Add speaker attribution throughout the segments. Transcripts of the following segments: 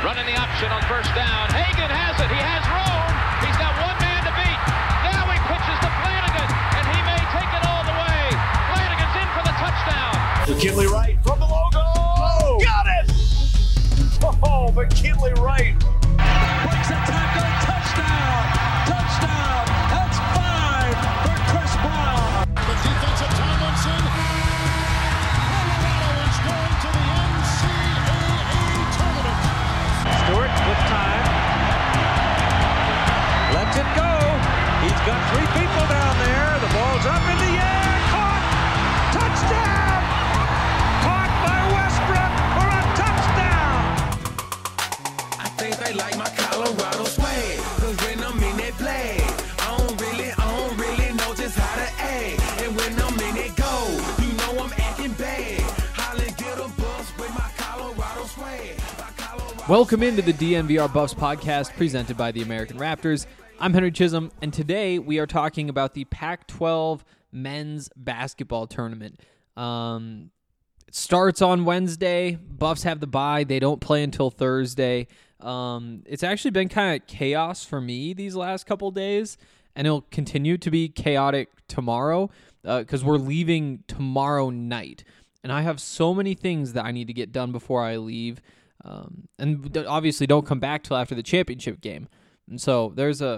Speaker 1: Running the option on first down. Hagan has it. He has room. He's got one man to beat. Now he pitches to Flanagan, and he may take it all the way. Flanagan's in for the touchdown.
Speaker 2: McKinley Wright from the logo. Oh, got it! Oh, McKinley Wright.
Speaker 3: Breaks a tackle. Touchdown. Touchdown. That's 5 for Chris Brown.
Speaker 4: The defensive Tomlinson. Colorado is going to the NCAA tournament.
Speaker 3: Stewart with time. Lets it go. He's got 3 people down there. The ball's up in the air. Caught. Touchdown. Caught by Westbrook for a touchdown.
Speaker 5: I think they like my Colorado swag. Cause when I'm in that play, I don't really know just how to act. And when I'm in it go, you know I'm acting bad. Holly get a bus with my Colorado swag.
Speaker 6: Welcome into the DNVR Buffs podcast presented by the American Raptors. I'm Henry Chisholm, and today we are talking about the Pac-12 men's basketball tournament. It starts on Wednesday. Buffs have the bye. They don't play until Thursday. It's actually been kind of chaos for me these last couple days, and it'll continue to be chaotic tomorrow because we're leaving tomorrow night. And I have so many things that I need to get done before I leave. And obviously don't come back till after the championship game. And so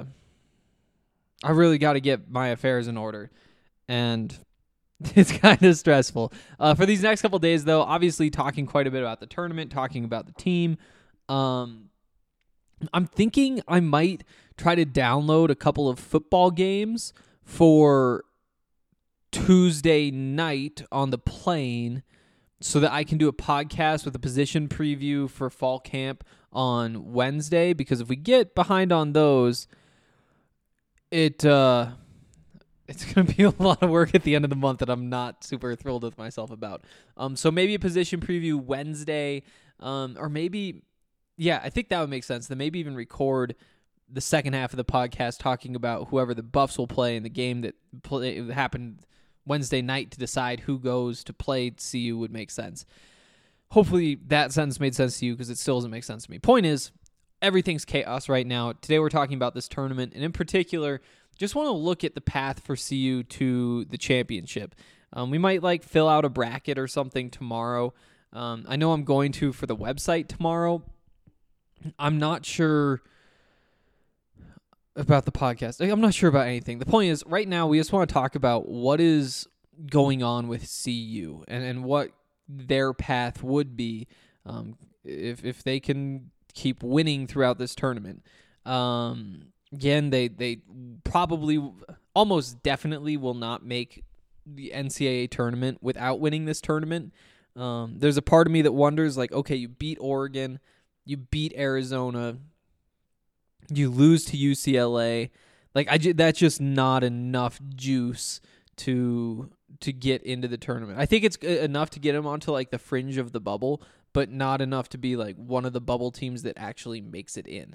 Speaker 6: I really got to get my affairs in order. And it's kind of stressful. For these next couple days, though, obviously talking quite a bit about the tournament, talking about the team. I'm thinking I might try to download a couple of football games for Tuesday night on the plane so that I can do a podcast with a position preview for fall camp on Wednesday, because if we get behind on those, it's going to be a lot of work at the end of the month that I'm not super thrilled with myself about. So maybe a position preview Wednesday, or maybe, yeah, I think that would make sense. Then maybe even record the second half of the podcast talking about whoever the Buffs will play in the game that happened Wednesday night to decide who goes to play CU would make sense. Hopefully that sentence made sense to you, because it still doesn't make sense to me. Point is, everything's chaos right now. Today we're talking about this tournament, and in particular, just want to look at the path for CU to the championship. We might fill out a bracket or something tomorrow. I know I'm going to for the website tomorrow. I'm not sure about the podcast. I'm not sure about anything. The point is, right now, we just want to talk about what is going on with CU and what their path would be if they can keep winning throughout this tournament. Again, they probably, almost definitely will not make the NCAA tournament without winning this tournament. There's a part of me that wonders, okay, you beat Oregon, you beat Arizona, you lose to UCLA. That's just not enough juice to get into the tournament. I think it's enough to get them onto the fringe of the bubble, but not enough to be one of the bubble teams that actually makes it in.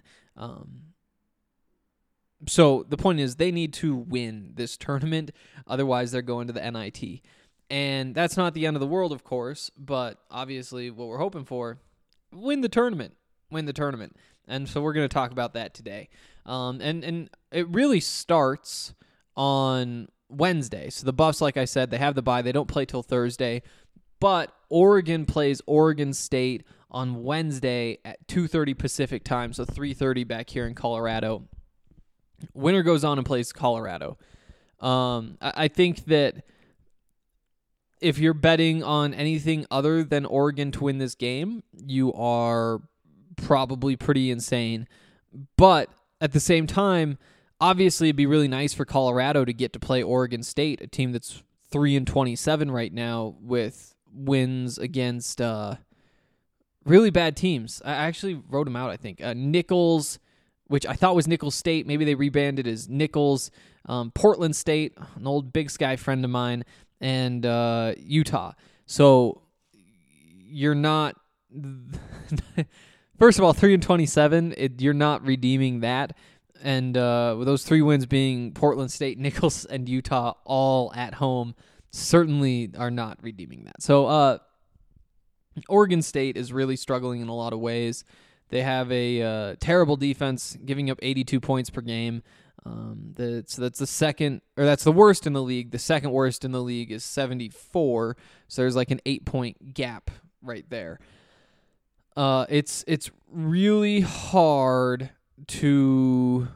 Speaker 6: So the point is, they need to win this tournament, otherwise they're going to the NIT. And that's not the end of the world, of course, but obviously what we're hoping for, win the tournament. And so we're going to talk about that today. And it really starts on Wednesday. So the Buffs, like I said, they have the bye. They don't play till Thursday. But Oregon plays Oregon State on Wednesday at 2:30 Pacific time, so 3:30 back here in Colorado. Winner goes on and plays Colorado. I think that if you're betting on anything other than Oregon to win this game, you are probably pretty insane. But at the same time, obviously it'd be really nice for Colorado to get to play Oregon State, a team that's 3-27 right now with wins against really bad teams. I actually wrote them out, I think. Nichols, which I thought was Nicholls State. Maybe they rebranded as Nichols. Portland State, an old Big Sky friend of mine, and Utah. So you're not... First of all, 3-27, you're not redeeming that. And with those 3 wins being Portland State, Nichols, and Utah all at home, certainly are not redeeming that. So Oregon State is really struggling in a lot of ways. They have a terrible defense, giving up 82 points per game. That's the second, or that's the worst in the league. The second worst in the league is 74. So there's like an 8-point gap right there. It's really hard to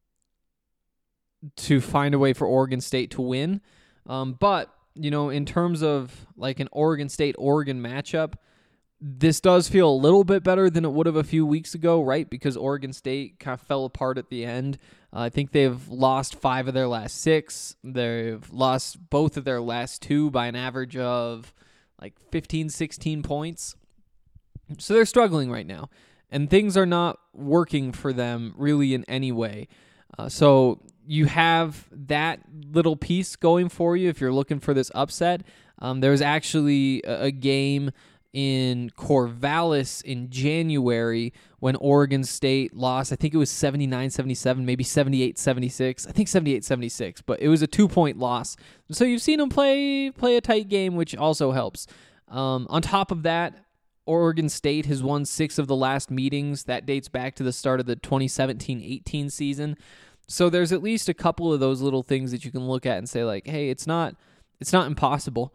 Speaker 6: find a way for Oregon State to win. But, in terms of like an Oregon State-Oregon matchup, this does feel a little bit better than it would have a few weeks ago, right? Because Oregon State kind of fell apart at the end. I think they've lost 5 of their last 6. They've lost both of their last 2 by an average of like 15, 16 points. So they're struggling right now. And things are not working for them really in any way. So you have that little piece going for you if you're looking for this upset. There was actually a game in Corvallis in January when Oregon State lost. I think it was 79-77, maybe 78-76. I think 78-76, but it was a 2-point loss. So you've seen them play a tight game, which also helps. On top of that, Oregon State has won 6 of the last meetings. That dates back to the start of the 2017-18 season. So there's at least a couple of those little things that you can look at and say, like, hey, it's not impossible.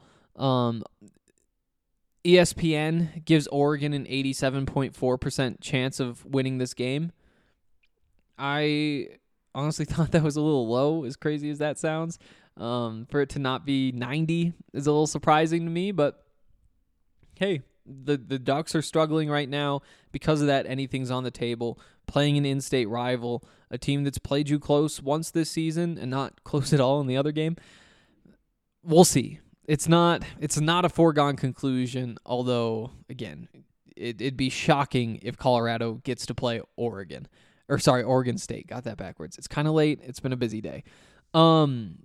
Speaker 6: ESPN gives Oregon an 87.4% chance of winning this game. I honestly thought that was a little low, as crazy as that sounds. For it to not be 90 is a little surprising to me, but hey, the Ducks are struggling right now. Because of that, anything's on the table. Playing an in-state rival, a team that's played you close once this season and not close at all in the other game. We'll see. It's not a foregone conclusion, although, again, it'd be shocking if Colorado gets to play Oregon State. Got that backwards. It's kind of late. It's been a busy day. In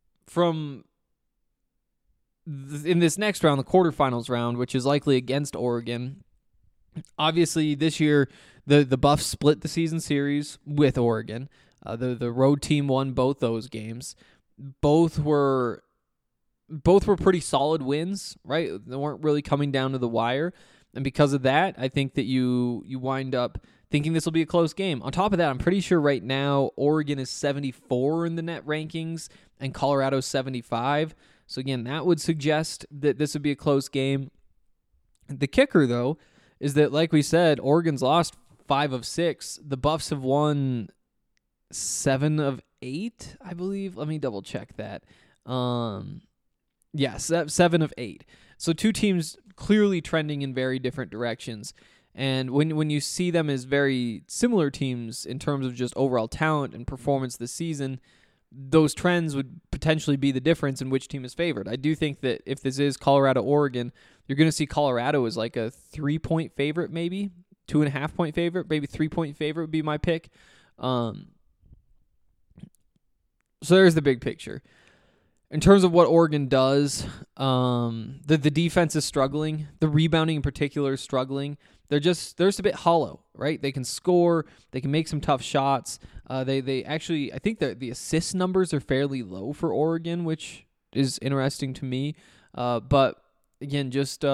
Speaker 6: this next round, the quarterfinals round, which is likely against Oregon, obviously this year the Buffs split the season series with Oregon. The road team won both those games. Both were pretty solid wins, right? They weren't really coming down to the wire. And because of that, I think that you wind up thinking this will be a close game. On top of that, I'm pretty sure right now Oregon is 74 in the net rankings and Colorado 75. So again, that would suggest that this would be a close game. The kicker, though, is that, like we said, Oregon's lost 5 of 6. The Buffs have won 7 of 8, I believe. Let me double check that. Yes, 7 of 8. So 2 teams clearly trending in very different directions. And when you see them as very similar teams in terms of just overall talent and performance this season, those trends would potentially be the difference in which team is favored. I do think that if this is Colorado-Oregon, you're going to see Colorado as like a 3-point favorite, maybe 2.5-point favorite, maybe 3-point favorite would be my pick. So there's the big picture. In terms of what Oregon does, the defense is struggling. The rebounding in particular is struggling. They're just a bit hollow, right? They can score. They can make some tough shots. They actually, I think the assist numbers are fairly low for Oregon, which is interesting to me. But again, just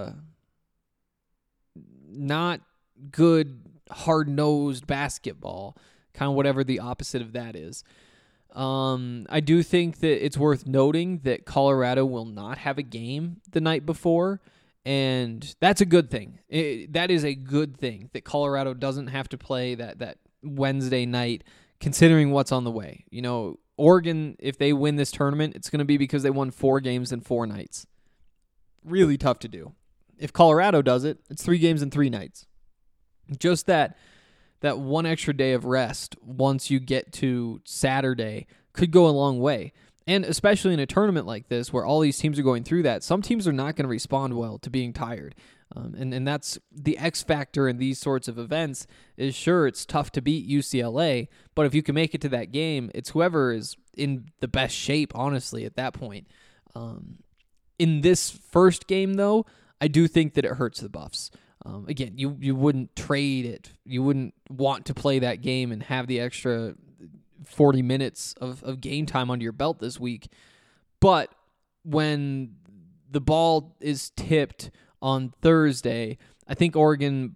Speaker 6: not good, hard-nosed basketball, kind of whatever the opposite of that is. I do think that it's worth noting that Colorado will not have a game the night before, and that's a good thing. That is a good thing that Colorado doesn't have to play that Wednesday night, considering what's on the way. Oregon, if they win this tournament, it's going to be because they won 4 games in 4 nights. Really tough to do. If Colorado does it, it's 3 games in 3 nights. Just that one extra day of rest once you get to Saturday could go a long way. And especially in a tournament like this where all these teams are going through that, some teams are not going to respond well to being tired. And that's the X factor in these sorts of events is, sure, it's tough to beat UCLA, but if you can make it to that game, it's whoever is in the best shape, honestly, at that point. In this first game, though, I do think that it hurts the Buffs. Again, you wouldn't trade it. You wouldn't want to play that game and have the extra 40 minutes of game time under your belt this week. But when the ball is tipped on Thursday, I think Oregon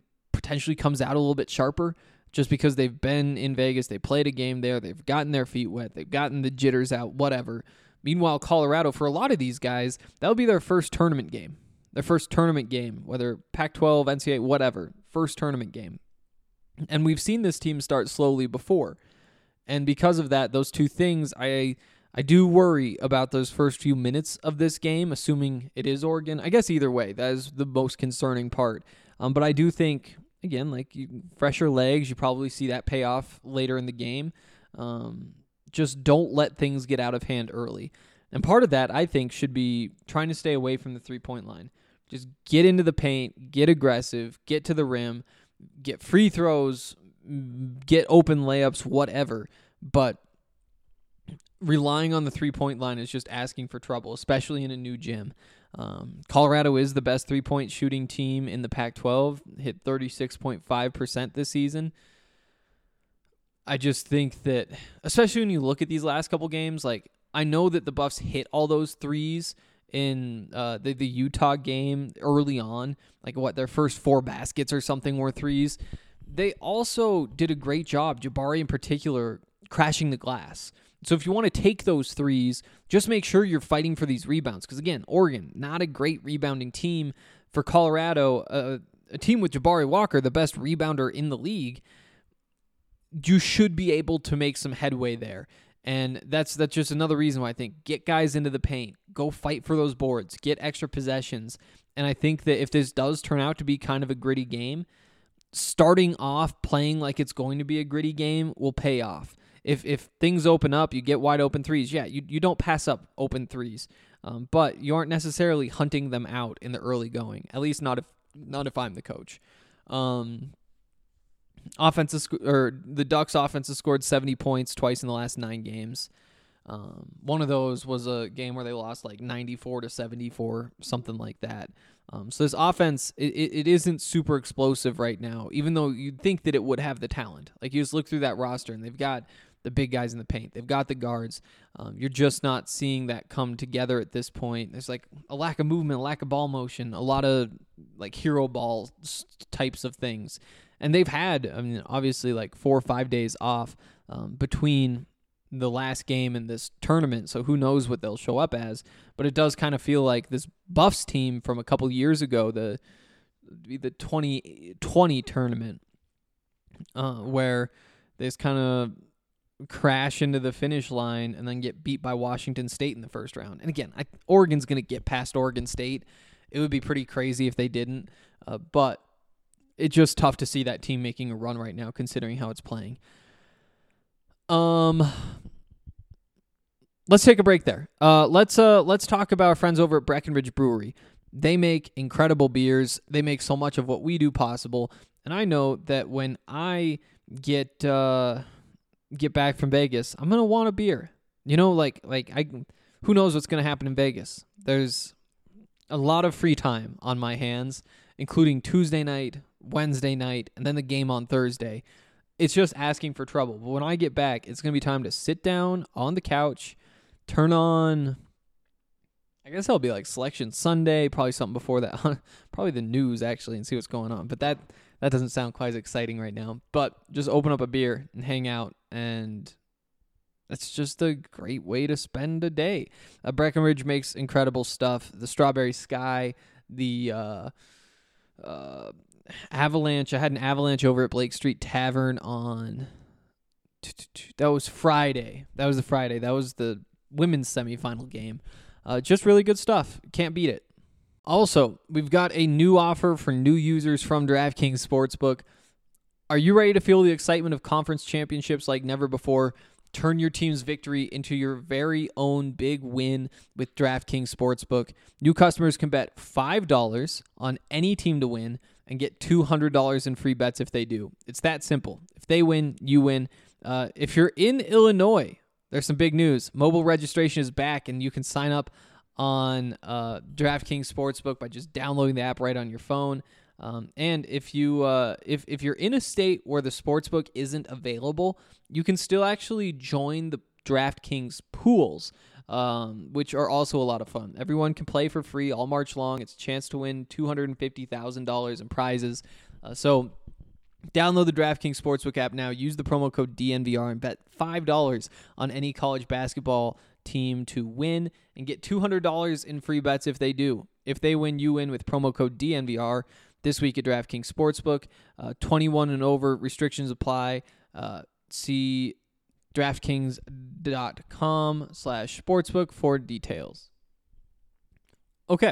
Speaker 6: potentially comes out a little bit sharper just because they've been in Vegas, they played a game there, they've gotten their feet wet, they've gotten the jitters out, whatever. Meanwhile, Colorado, for a lot of these guys, that'll be their first tournament game. Their first tournament game, whether Pac-12, NCAA, whatever, first tournament game. And we've seen this team start slowly before. And because of that, those two things, I do worry about those first few minutes of this game, assuming it is Oregon. I guess either way, that is the most concerning part. But I do think, again, fresher legs, you probably see that pay off later in the game. Just don't let things get out of hand early. And part of that, I think, should be trying to stay away from the three-point line. Just get into the paint, get aggressive, get to the rim, get free throws, get open layups, whatever. But relying on the three-point line is just asking for trouble, especially in a new gym. Colorado is the best three-point shooting team in the Pac-12, hit 36.5% this season. I just think that, especially when you look at these last couple games, I know that the Buffs hit all those threes in the Utah game early on, their first 4 baskets or something were threes. They also did a great job, Jabari in particular, crashing the glass. So if you want to take those threes, just make sure you're fighting for these rebounds. Because again, Oregon, not a great rebounding team. For Colorado, a team with Jabari Walker, the best rebounder in the league, you should be able to make some headway there. And that's just another reason why I think get guys into the paint, go fight for those boards, get extra possessions. And I think that if this does turn out to be kind of a gritty game, starting off playing like it's going to be a gritty game will pay off. If things open up, you get wide open threes. Yeah, you don't pass up open threes, but you aren't necessarily hunting them out in the early going. At least not if I'm the coach. The Ducks offense has scored 70 points twice in the last 9 games. One of those was a game where they lost 94-74, something like that. So this offense, it isn't super explosive right now, even though you'd think that it would have the talent. You just look through that roster, and they've got the big guys in the paint. They've got the guards. You're just not seeing that come together at this point. There's a lack of movement, a lack of ball motion, a lot of hero ball types of things. And they've had, obviously 4 or 5 days off between the last game and this tournament, so who knows what they'll show up as. But it does kind of feel like this Buffs team from a couple years ago, the 2020 tournament, where they just kind of crash into the finish line and then get beat by Washington State in the first round. And again, Oregon's going to get past Oregon State. It would be pretty crazy if they didn't, but it's just tough to see that team making a run right now, considering how it's playing. Let's take a break there. Let's talk about our friends over at Breckenridge Brewery. They make incredible beers. They make so much of what we do possible. And I know that when I get back from Vegas, I'm gonna want a beer. Who knows what's gonna happen in Vegas? There's a lot of free time on my hands, including Tuesday night, Wednesday night, and then the game on Thursday. It's just asking for trouble. But when I get back, it's going to be time to sit down on the couch, turn on, I guess it'll be Selection Sunday, probably something before that, probably the news actually, and see what's going on. But that doesn't sound quite as exciting right now. But just open up a beer and hang out, and that's just a great way to spend a day. Breckenridge makes incredible stuff. The Strawberry Sky, the Avalanche. I had an Avalanche over at Blake Street Tavern on, that was Friday. That was the women's semifinal game. Just really good stuff. Can't beat it. Also, we've got a new offer for new users from DraftKings Sportsbook. Are you ready to feel the excitement of conference championships like never before? Turn your team's victory into your very own big win with DraftKings Sportsbook. New customers can bet $5 on any team to win and get $200 in free bets if they do. It's that simple. If they win, you win. If you're in Illinois, there's some big news. Mobile registration is back, and you can sign up on DraftKings Sportsbook by just downloading the app right on your phone. And if you're in a state where the sportsbook isn't available, you can still actually join the DraftKings pools, which are also a lot of fun. Everyone can play for free all March long. It's a chance to win $250,000 in prizes. So Download the DraftKings Sportsbook app now. Use the promo code DNVR and bet $5 on any college basketball team to win and get $200 in free bets if they do. If they win, you win with promo code DNVR this week at DraftKings Sportsbook. 21 and over. Restrictions apply. See DraftKings.com/sportsbook for details. Okay.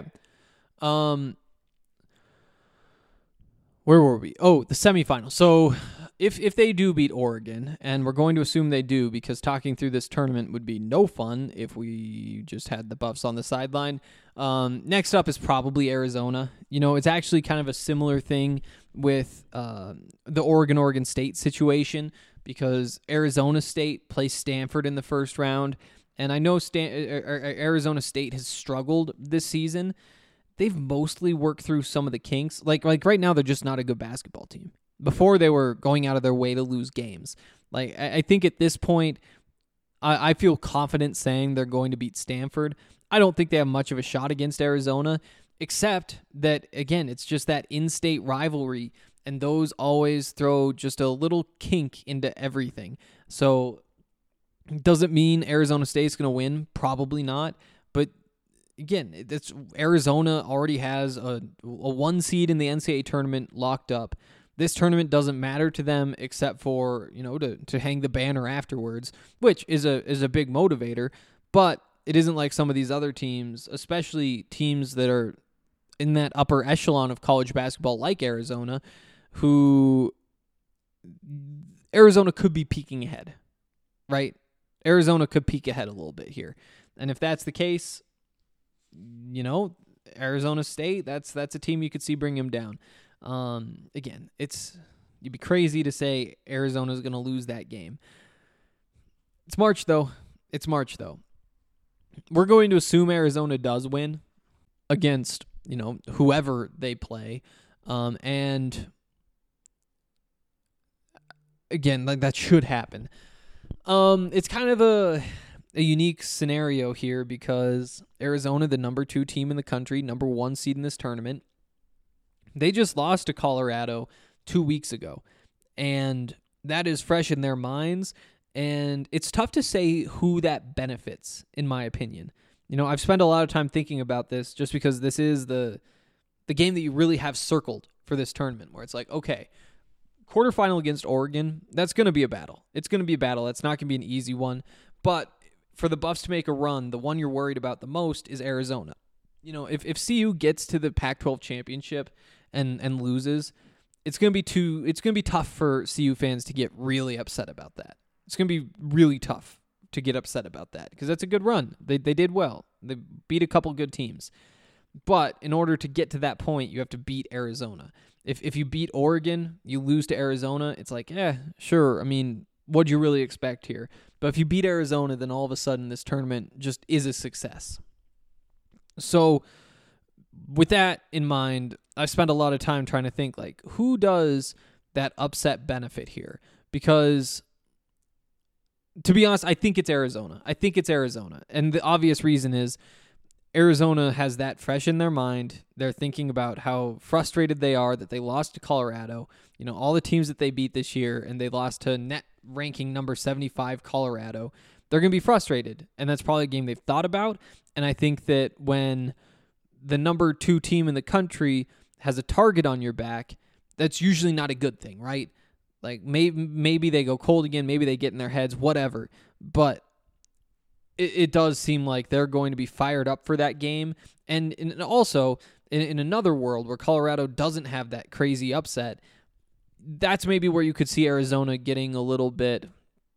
Speaker 6: Where were we? Oh, the semifinal. So if they do beat Oregon, and we're going to assume they do because talking through this tournament would be no fun if we just had the Buffs on the sideline. Next up is probably Arizona. It's actually kind of a similar thing with the Oregon State situation because Arizona State plays Stanford in the first round, and I know Arizona State has struggled this season. They've mostly worked through some of the kinks. Like right now, they're just not a good basketball team. Before, they were going out of their way to lose games. Like I think at this point, I feel confident saying they're going to beat Stanford. I don't think they have much of a shot against Arizona, except that, again, it's just that in-state rivalry, and those always throw just a little kink into everything. So does it mean Arizona State's going to win? Probably not. But again, Arizona already has a 1 seed in the NCAA tournament locked up. This tournament doesn't matter to them except for, to hang the banner afterwards, which is a big motivator, but it isn't like some of these other teams, especially teams that are in that upper echelon of college basketball like Arizona, who Arizona could be peeking ahead, right? Arizona could peek ahead a little bit here. And if that's the case, Arizona State, that's a team you could see bring him down. Again, you'd be crazy to say Arizona's going to lose that game. It's March, though. We're going to assume Arizona does win against, whoever they play. And again, like that should happen. It's kind of a unique scenario here because Arizona, the number 2 team in the country, number 1 seed in this tournament, they just lost to Colorado 2 weeks ago, and that is fresh in their minds, and it's tough to say who that benefits, in my opinion. I've spent a lot of time thinking about this just because this is the game that you really have circled for this tournament, where it's like, okay, quarterfinal against Oregon, that's going to be a battle. It's going to be a battle. That's not going to be an easy one, but for the Buffs to make a run, the one you're worried about the most is Arizona. If CU gets to the Pac-12 championship and loses, it's going to be tough for CU fans to get really upset about that. It's going to be really tough to get upset about that because that's a good run. They did well. They beat a couple good teams. But in order to get to that point, you have to beat Arizona. If you beat Oregon, you lose to Arizona, it's like, sure. I mean, what'd you really expect here? But if you beat Arizona, then all of a sudden this tournament just is a success. So with that in mind, I've spent a lot of time trying to think, like, who does that upset benefit here? Because, to be honest, I think it's Arizona. And the obvious reason is Arizona has that fresh in their mind. They're thinking about how frustrated they are that they lost to Colorado. All the teams that they beat this year, and they lost to net ranking number 75 Colorado. They're going to be frustrated, and that's probably a game they've thought about. And I think that when the number 2 team in the country has a target on your back, that's usually not a good thing, right? Like maybe they go cold again, maybe they get in their heads, whatever. But it does seem like they're going to be fired up for that game. And also, in another world where Colorado doesn't have that crazy upset, that's maybe where you could see Arizona getting a little bit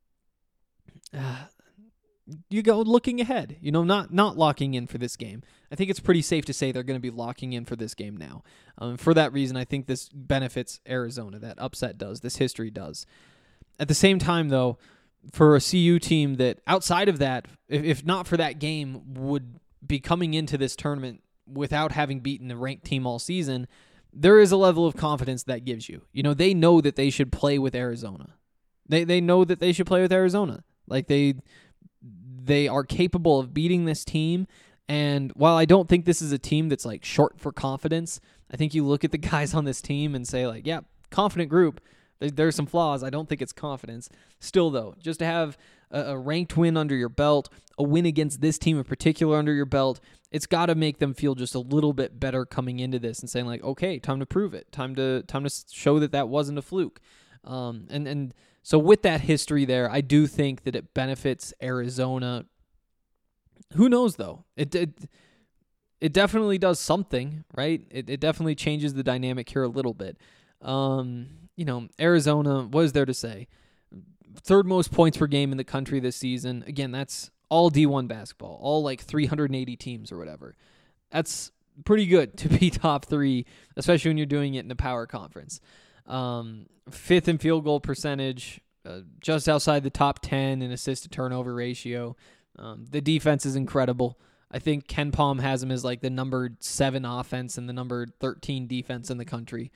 Speaker 6: looking ahead, not locking in for this game. I think it's pretty safe to say they're going to be locking in for this game now. For that reason, I think this benefits Arizona. That upset does. This history does. At the same time, though, for a CU team that outside of that, if not for that game, would be coming into this tournament without having beaten a ranked team all season, there is a level of confidence that gives you. They know that they should play with Arizona. They know that they should play with Arizona. Like they are capable of beating this team. And while I don't think this is a team that's like short for confidence, I think you look at the guys on this team and say like, yeah, confident group. There's some flaws. I don't think it's confidence. Still, though, just to have a ranked win under your belt, a win against this team in particular under your belt, it's got to make them feel just a little bit better coming into this and saying like, okay, time to prove it. Time to show that wasn't a fluke. And so with that history there, I do think that it benefits Arizona. Who knows, though? It definitely does something, right? It definitely changes the dynamic here a little bit. Arizona, what is there to say? Third most points per game in the country this season. Again, that's all D1 basketball, all like 380 teams or whatever. That's pretty good to be top 3, especially when you're doing it in a power conference. 5th in field goal percentage, just outside the top 10 in assist to turnover ratio. The defense is incredible. I think Ken Palm has him as like the number 7 offense and the number 13 defense in the country.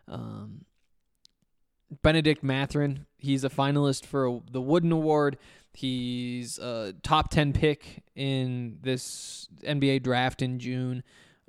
Speaker 6: Benedict Mathurin, he's a finalist for the Wooden Award. He's a top 10 pick in this NBA draft in June.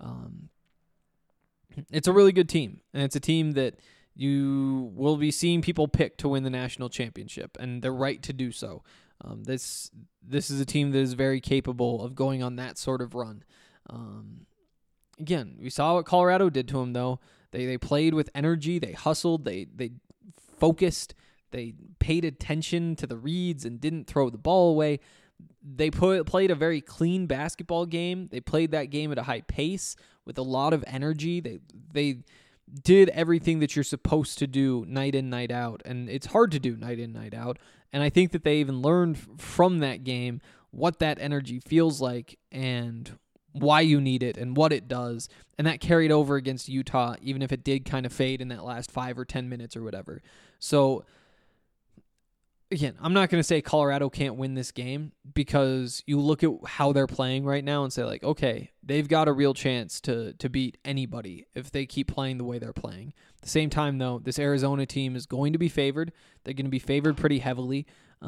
Speaker 6: It's a really good team, and it's a team that you will be seeing people pick to win the national championship, and they're right to do so. This is a team that is very capable of going on that sort of run. Again, we saw what Colorado did to them, though. They played with energy, they hustled, they focused, they paid attention to the reads and didn't throw the ball away. They played a very clean basketball game. They played that game at a high pace with a lot of energy. They did everything that you're supposed to do night in, night out, and it's hard to do night in, night out. And I think that they even learned from that game what that energy feels like and why you need it and what it does. And that carried over against Utah, even if it did kind of fade in that last 5 or 10 minutes or whatever. So, again, I'm not going to say Colorado can't win this game, because you look at how they're playing right now and say, like, okay, they've got a real chance to beat anybody if they keep playing the way they're playing. At the same time, though, this Arizona team is going to be favored. They're going to be favored pretty heavily.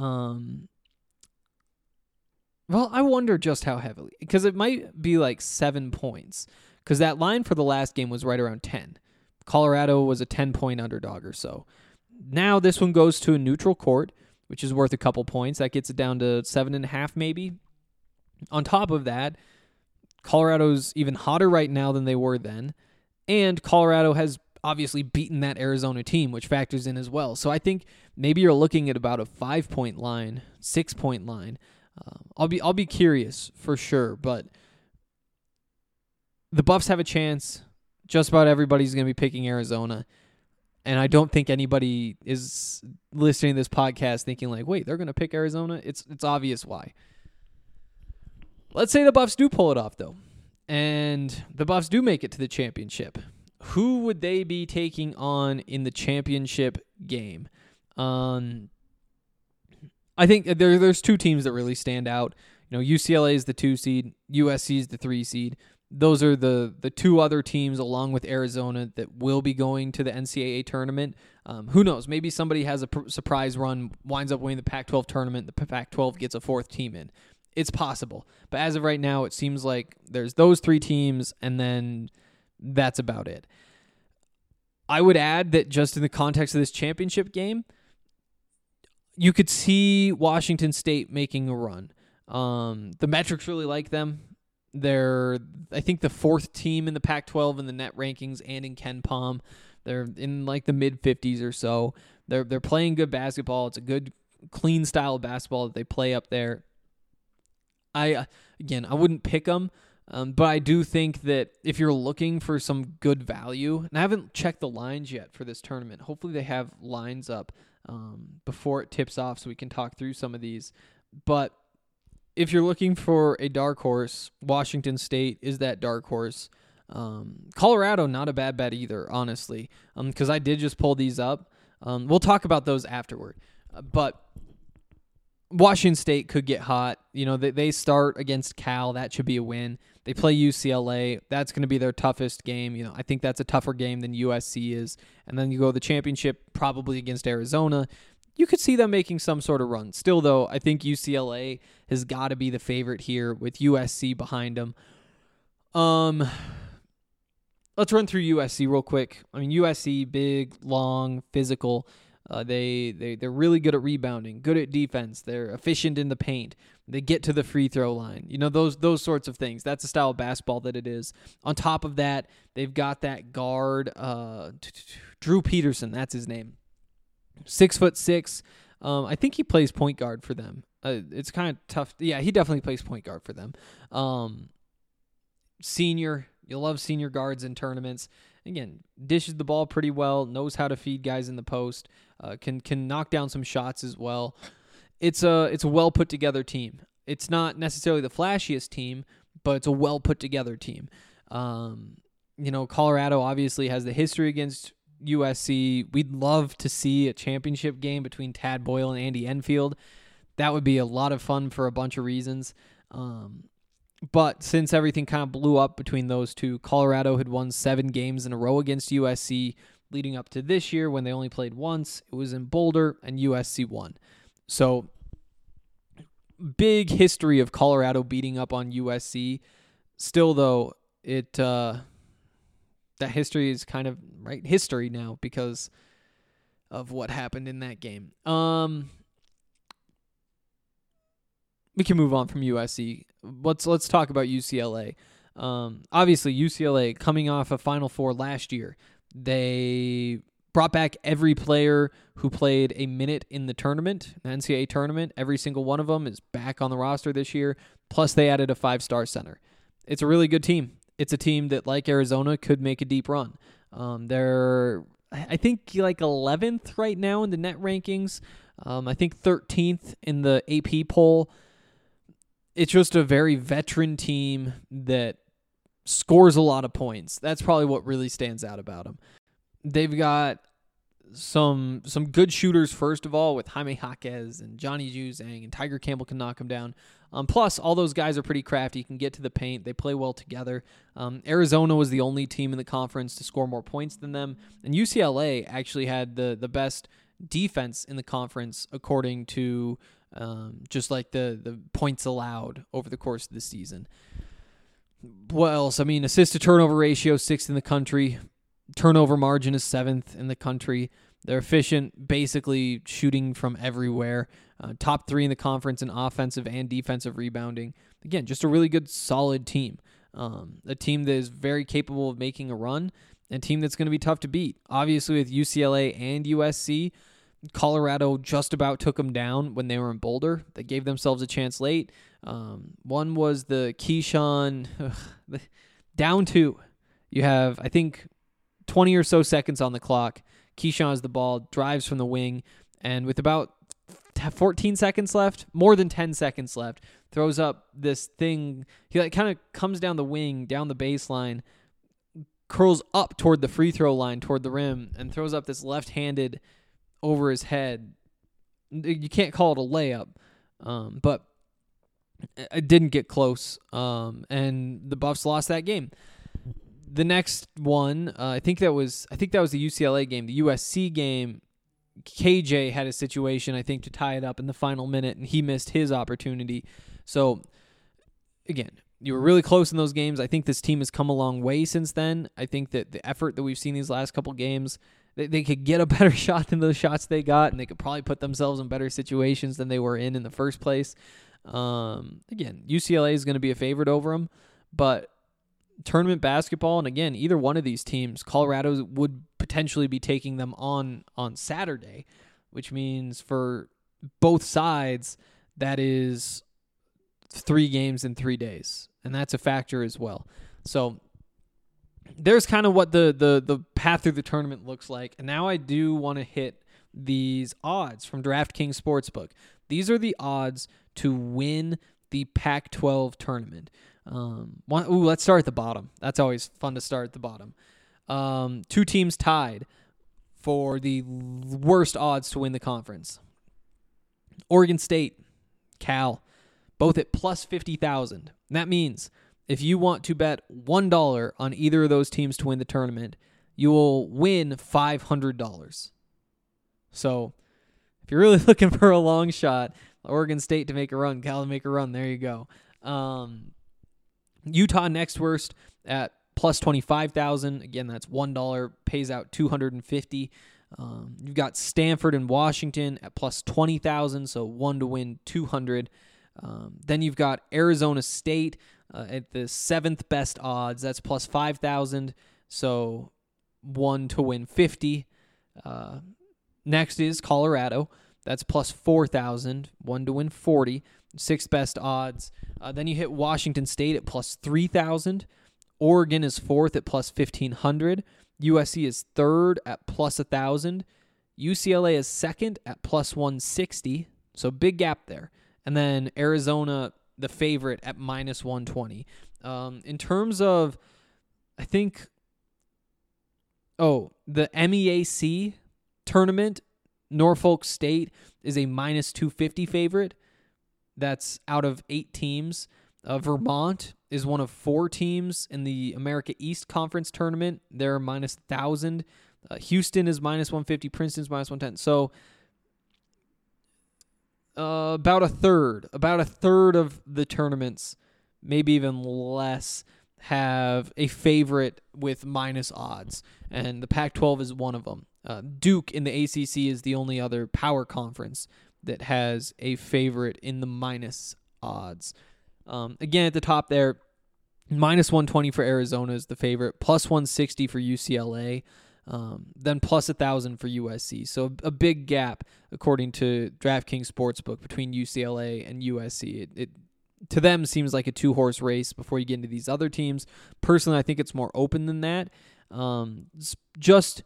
Speaker 6: Well, I wonder just how heavily, because it might be like 7 points, because that line for the last game was right around 10. Colorado was a 10-point underdog or so. Now this one goes to a neutral court, which is worth a couple points. That gets it down to 7.5 maybe. On top of that, Colorado's even hotter right now than they were then, and Colorado has obviously beaten that Arizona team, which factors in as well. So I think maybe you're looking at about a 5-point line, 6-point line. I'll be curious for sure, but the Buffs have a chance. Just about everybody's going to be picking Arizona, and I don't think anybody is listening to this podcast thinking like, wait, they're going to pick Arizona? It's obvious why. Let's say the Buffs do pull it off, though, and the Buffs do make it to the championship. Who would they be taking on in the championship game? I think there's 2 teams that really stand out. UCLA is the 2 seed, USC is the 3 seed. Those are the 2 other teams, along with Arizona, that will be going to the NCAA tournament. Who knows? Maybe somebody has a surprise run, winds up winning the Pac-12 tournament, the Pac-12 gets a 4th team in. It's possible. But as of right now, it seems like there's those 3 teams, and then that's about it. I would add that just in the context of this championship game, you could see Washington State making a run. The metrics really like them. They're, I think, the 4th team in the Pac-12 in the net rankings and in Ken Palm. They're in like the mid-50s or so. They're playing good basketball. It's a good, clean style of basketball that they play up there. I wouldn't pick them, but I do think that if you're looking for some good value, and I haven't checked the lines yet for this tournament. Hopefully they have lines up before it tips off so we can talk through some of these. But if you're looking for a dark horse, Washington State is that dark horse. Colorado, not a bad bet either, honestly, because I did just pull these up. We'll talk about those afterward. But Washington State could get hot. They start against Cal. That should be a win. They play UCLA. That's going to be their toughest game. I think that's a tougher game than USC is. And then you go to the championship, probably against Arizona. You could see them making some sort of run. Still, though, I think UCLA has got to be the favorite here with USC behind them. Let's run through USC real quick. USC, big, long, physical. They're really good at rebounding, good at defense. They're efficient in the paint. They get to the free throw line. Those sorts of things. That's the style of basketball that it is. On top of that, they've got that guard, Drew Peterson. That's his name. 6'6". I think he plays point guard for them. It's kind of tough. Yeah, he definitely plays point guard for them. Senior. You'll love senior guards in tournaments. Again, dishes the ball pretty well, knows how to feed guys in the post, can knock down some shots as well. It's a well put together team. It's not necessarily the flashiest team, but it's a well put together team. Colorado obviously has the history against USC. We'd love to see a championship game between Tad Boyle and Andy Enfield. That would be a lot of fun for a bunch of reasons. But since everything kind of blew up between those two, Colorado had won 7 games in a row against USC leading up to this year when they only played once. It was in Boulder, and USC won. So, big history of Colorado beating up on USC. Still, though, that history is kind of history now because of what happened in that game. We can move on from USC. Let's talk about UCLA. Obviously, UCLA coming off a Final Four last year. They brought back every player who played a minute in the tournament, the NCAA tournament. Every single one of them is back on the roster this year. Plus, they added a 5-star center. It's a really good team. It's a team that, like Arizona, could make a deep run. They're, I think, 11th right now in the net rankings. I think 13th in the AP poll. It's just a very veteran team that scores a lot of points. That's probably what really stands out about them. They've got some good shooters, first of all, with Jaime Jaquez and Johnny Juzang, and Tiger Campbell can knock them down. Plus, all those guys are pretty crafty, can get to the paint. They play well together. Arizona was the only team in the conference to score more points than them. And UCLA actually had the best defense in the conference, according to just the points allowed over the course of the season. What else? Assist to turnover ratio, 6th in the country. Turnover margin is 7th in the country. They're efficient, basically shooting from everywhere. Top 3 in the conference in offensive and defensive rebounding. Again, just a really good, solid team. A team that is very capable of making a run, and a team that's going to be tough to beat. Obviously, with UCLA and USC, Colorado just about took them down when they were in Boulder. They gave themselves a chance late. One was the Keyshawn down 2. You have, I think, 20 or so seconds on the clock. Keyshawn has the ball, drives from the wing, and with about 14 seconds left, more than 10 seconds left, throws up this thing. He kind of comes down the wing, down the baseline, curls up toward the free throw line, toward the rim, and throws up this left-handed over his head. You can't call it a layup, but it didn't get close, and the Buffs lost that game. The next one, I think that was the UCLA game. The USC game, KJ had a situation, I think, to tie it up in the final minute, and he missed his opportunity. So, again, you were really close in those games. I think this team has come a long way since then. I think that the effort that we've seen these last couple games, they could get a better shot than those shots they got, and they could probably put themselves in better situations than they were in the first place. Again, UCLA is going to be a favorite over them, but tournament basketball, and again, either one of these teams, Colorado would potentially be taking them on Saturday, which means for both sides, that is 3 games in 3 days, and that's a factor as well. So there's kind of what the path through the tournament looks like. And now I do want to hit these odds from DraftKings Sportsbook. These are the odds to win the Pac-12 tournament. Let's start at the bottom. That's always fun to start at the bottom. 2 teams tied for the worst odds to win the conference. Oregon State, Cal, both at plus 50,000. That means if you want to bet $1 on either of those teams to win the tournament, you will win $500. So if you're really looking for a long shot, Oregon State to make a run, Cal to make a run, there you go. Utah next worst at plus 25,000. Again, that's $1, pays out $250. You've got Stanford and Washington at plus 20,000, so 1 to win 200. Then you've got Arizona State at the 7th best odds. That's plus 5,000, so 1 to win 50. Next is Colorado. That's plus 4,000, 1 to win 40. 6th best odds. Then you hit Washington State at plus 3,000. Oregon is 4th at plus 1,500. USC is 3rd at plus 1,000. UCLA is 2nd at plus 160. So big gap there. And then Arizona, the favorite, at minus 120. In terms of, I think, the MEAC tournament, Norfolk State is a minus 250 favorite. That's out of 8 teams. Vermont is one of 4 teams in the America East Conference tournament. They're minus 1,000. Houston is minus 150. Princeton's minus 110. So about a third of the tournaments, maybe even less, have a favorite with minus odds, and the Pac-12 is one of them. Duke in the ACC is the only other power conference that has a favorite in the minus odds. Again, at the top there, minus 120 for Arizona is the favorite, plus 160 for UCLA, then plus 1,000 for USC. So a big gap, according to DraftKings Sportsbook, between UCLA and USC. It to them seems like a 2-horse race before you get into these other teams. Personally, I think it's more open than that. Just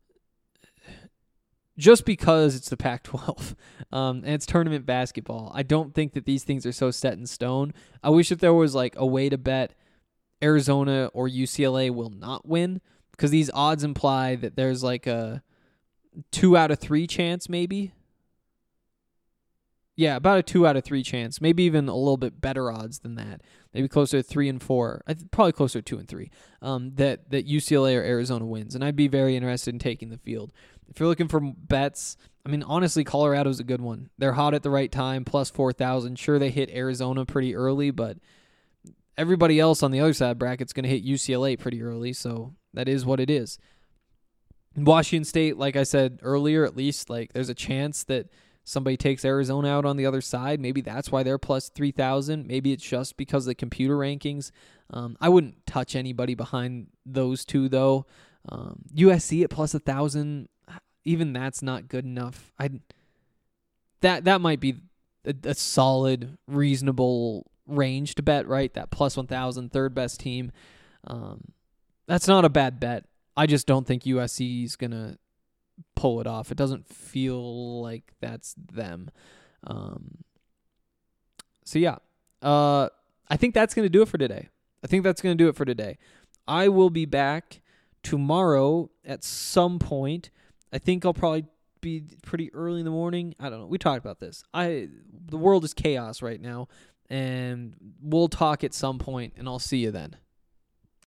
Speaker 6: because it's the Pac-12 and it's tournament basketball, I don't think that these things are so set in stone. I wish that there was like a way to bet Arizona or UCLA will not win, because these odds imply that there's like a 2 out of 3 chance maybe. Yeah, about a 2 out of 3 chance, maybe even a little bit better odds than that. Maybe closer to 3 and 4. Probably closer to 2 and 3. That UCLA or Arizona wins, and I'd be very interested in taking the field. If you're looking for bets, I mean, honestly, Colorado's a good one. They're hot at the right time, plus 4,000. Sure, they hit Arizona pretty early, but everybody else on the other side of the bracket's going to hit UCLA pretty early, so that is what it is. Washington State, like I said earlier, at least like there's a chance that somebody takes Arizona out on the other side. Maybe that's why they're plus 3,000. Maybe it's just because of the computer rankings. I wouldn't touch anybody behind those two, though. USC at plus 1,000, even that's not good enough. That might be a solid, reasonable range to bet, right? That plus 1,000, third best team. That's not a bad bet. I just don't think USC is going to pull it off. It doesn't feel like that's them. So yeah, I think that's going to do it for today. I will be back tomorrow at some point. I think I'll probably be pretty early in the morning. I don't know. We talked about this. The world is chaos right now, and we'll talk at some point, and I'll see you then.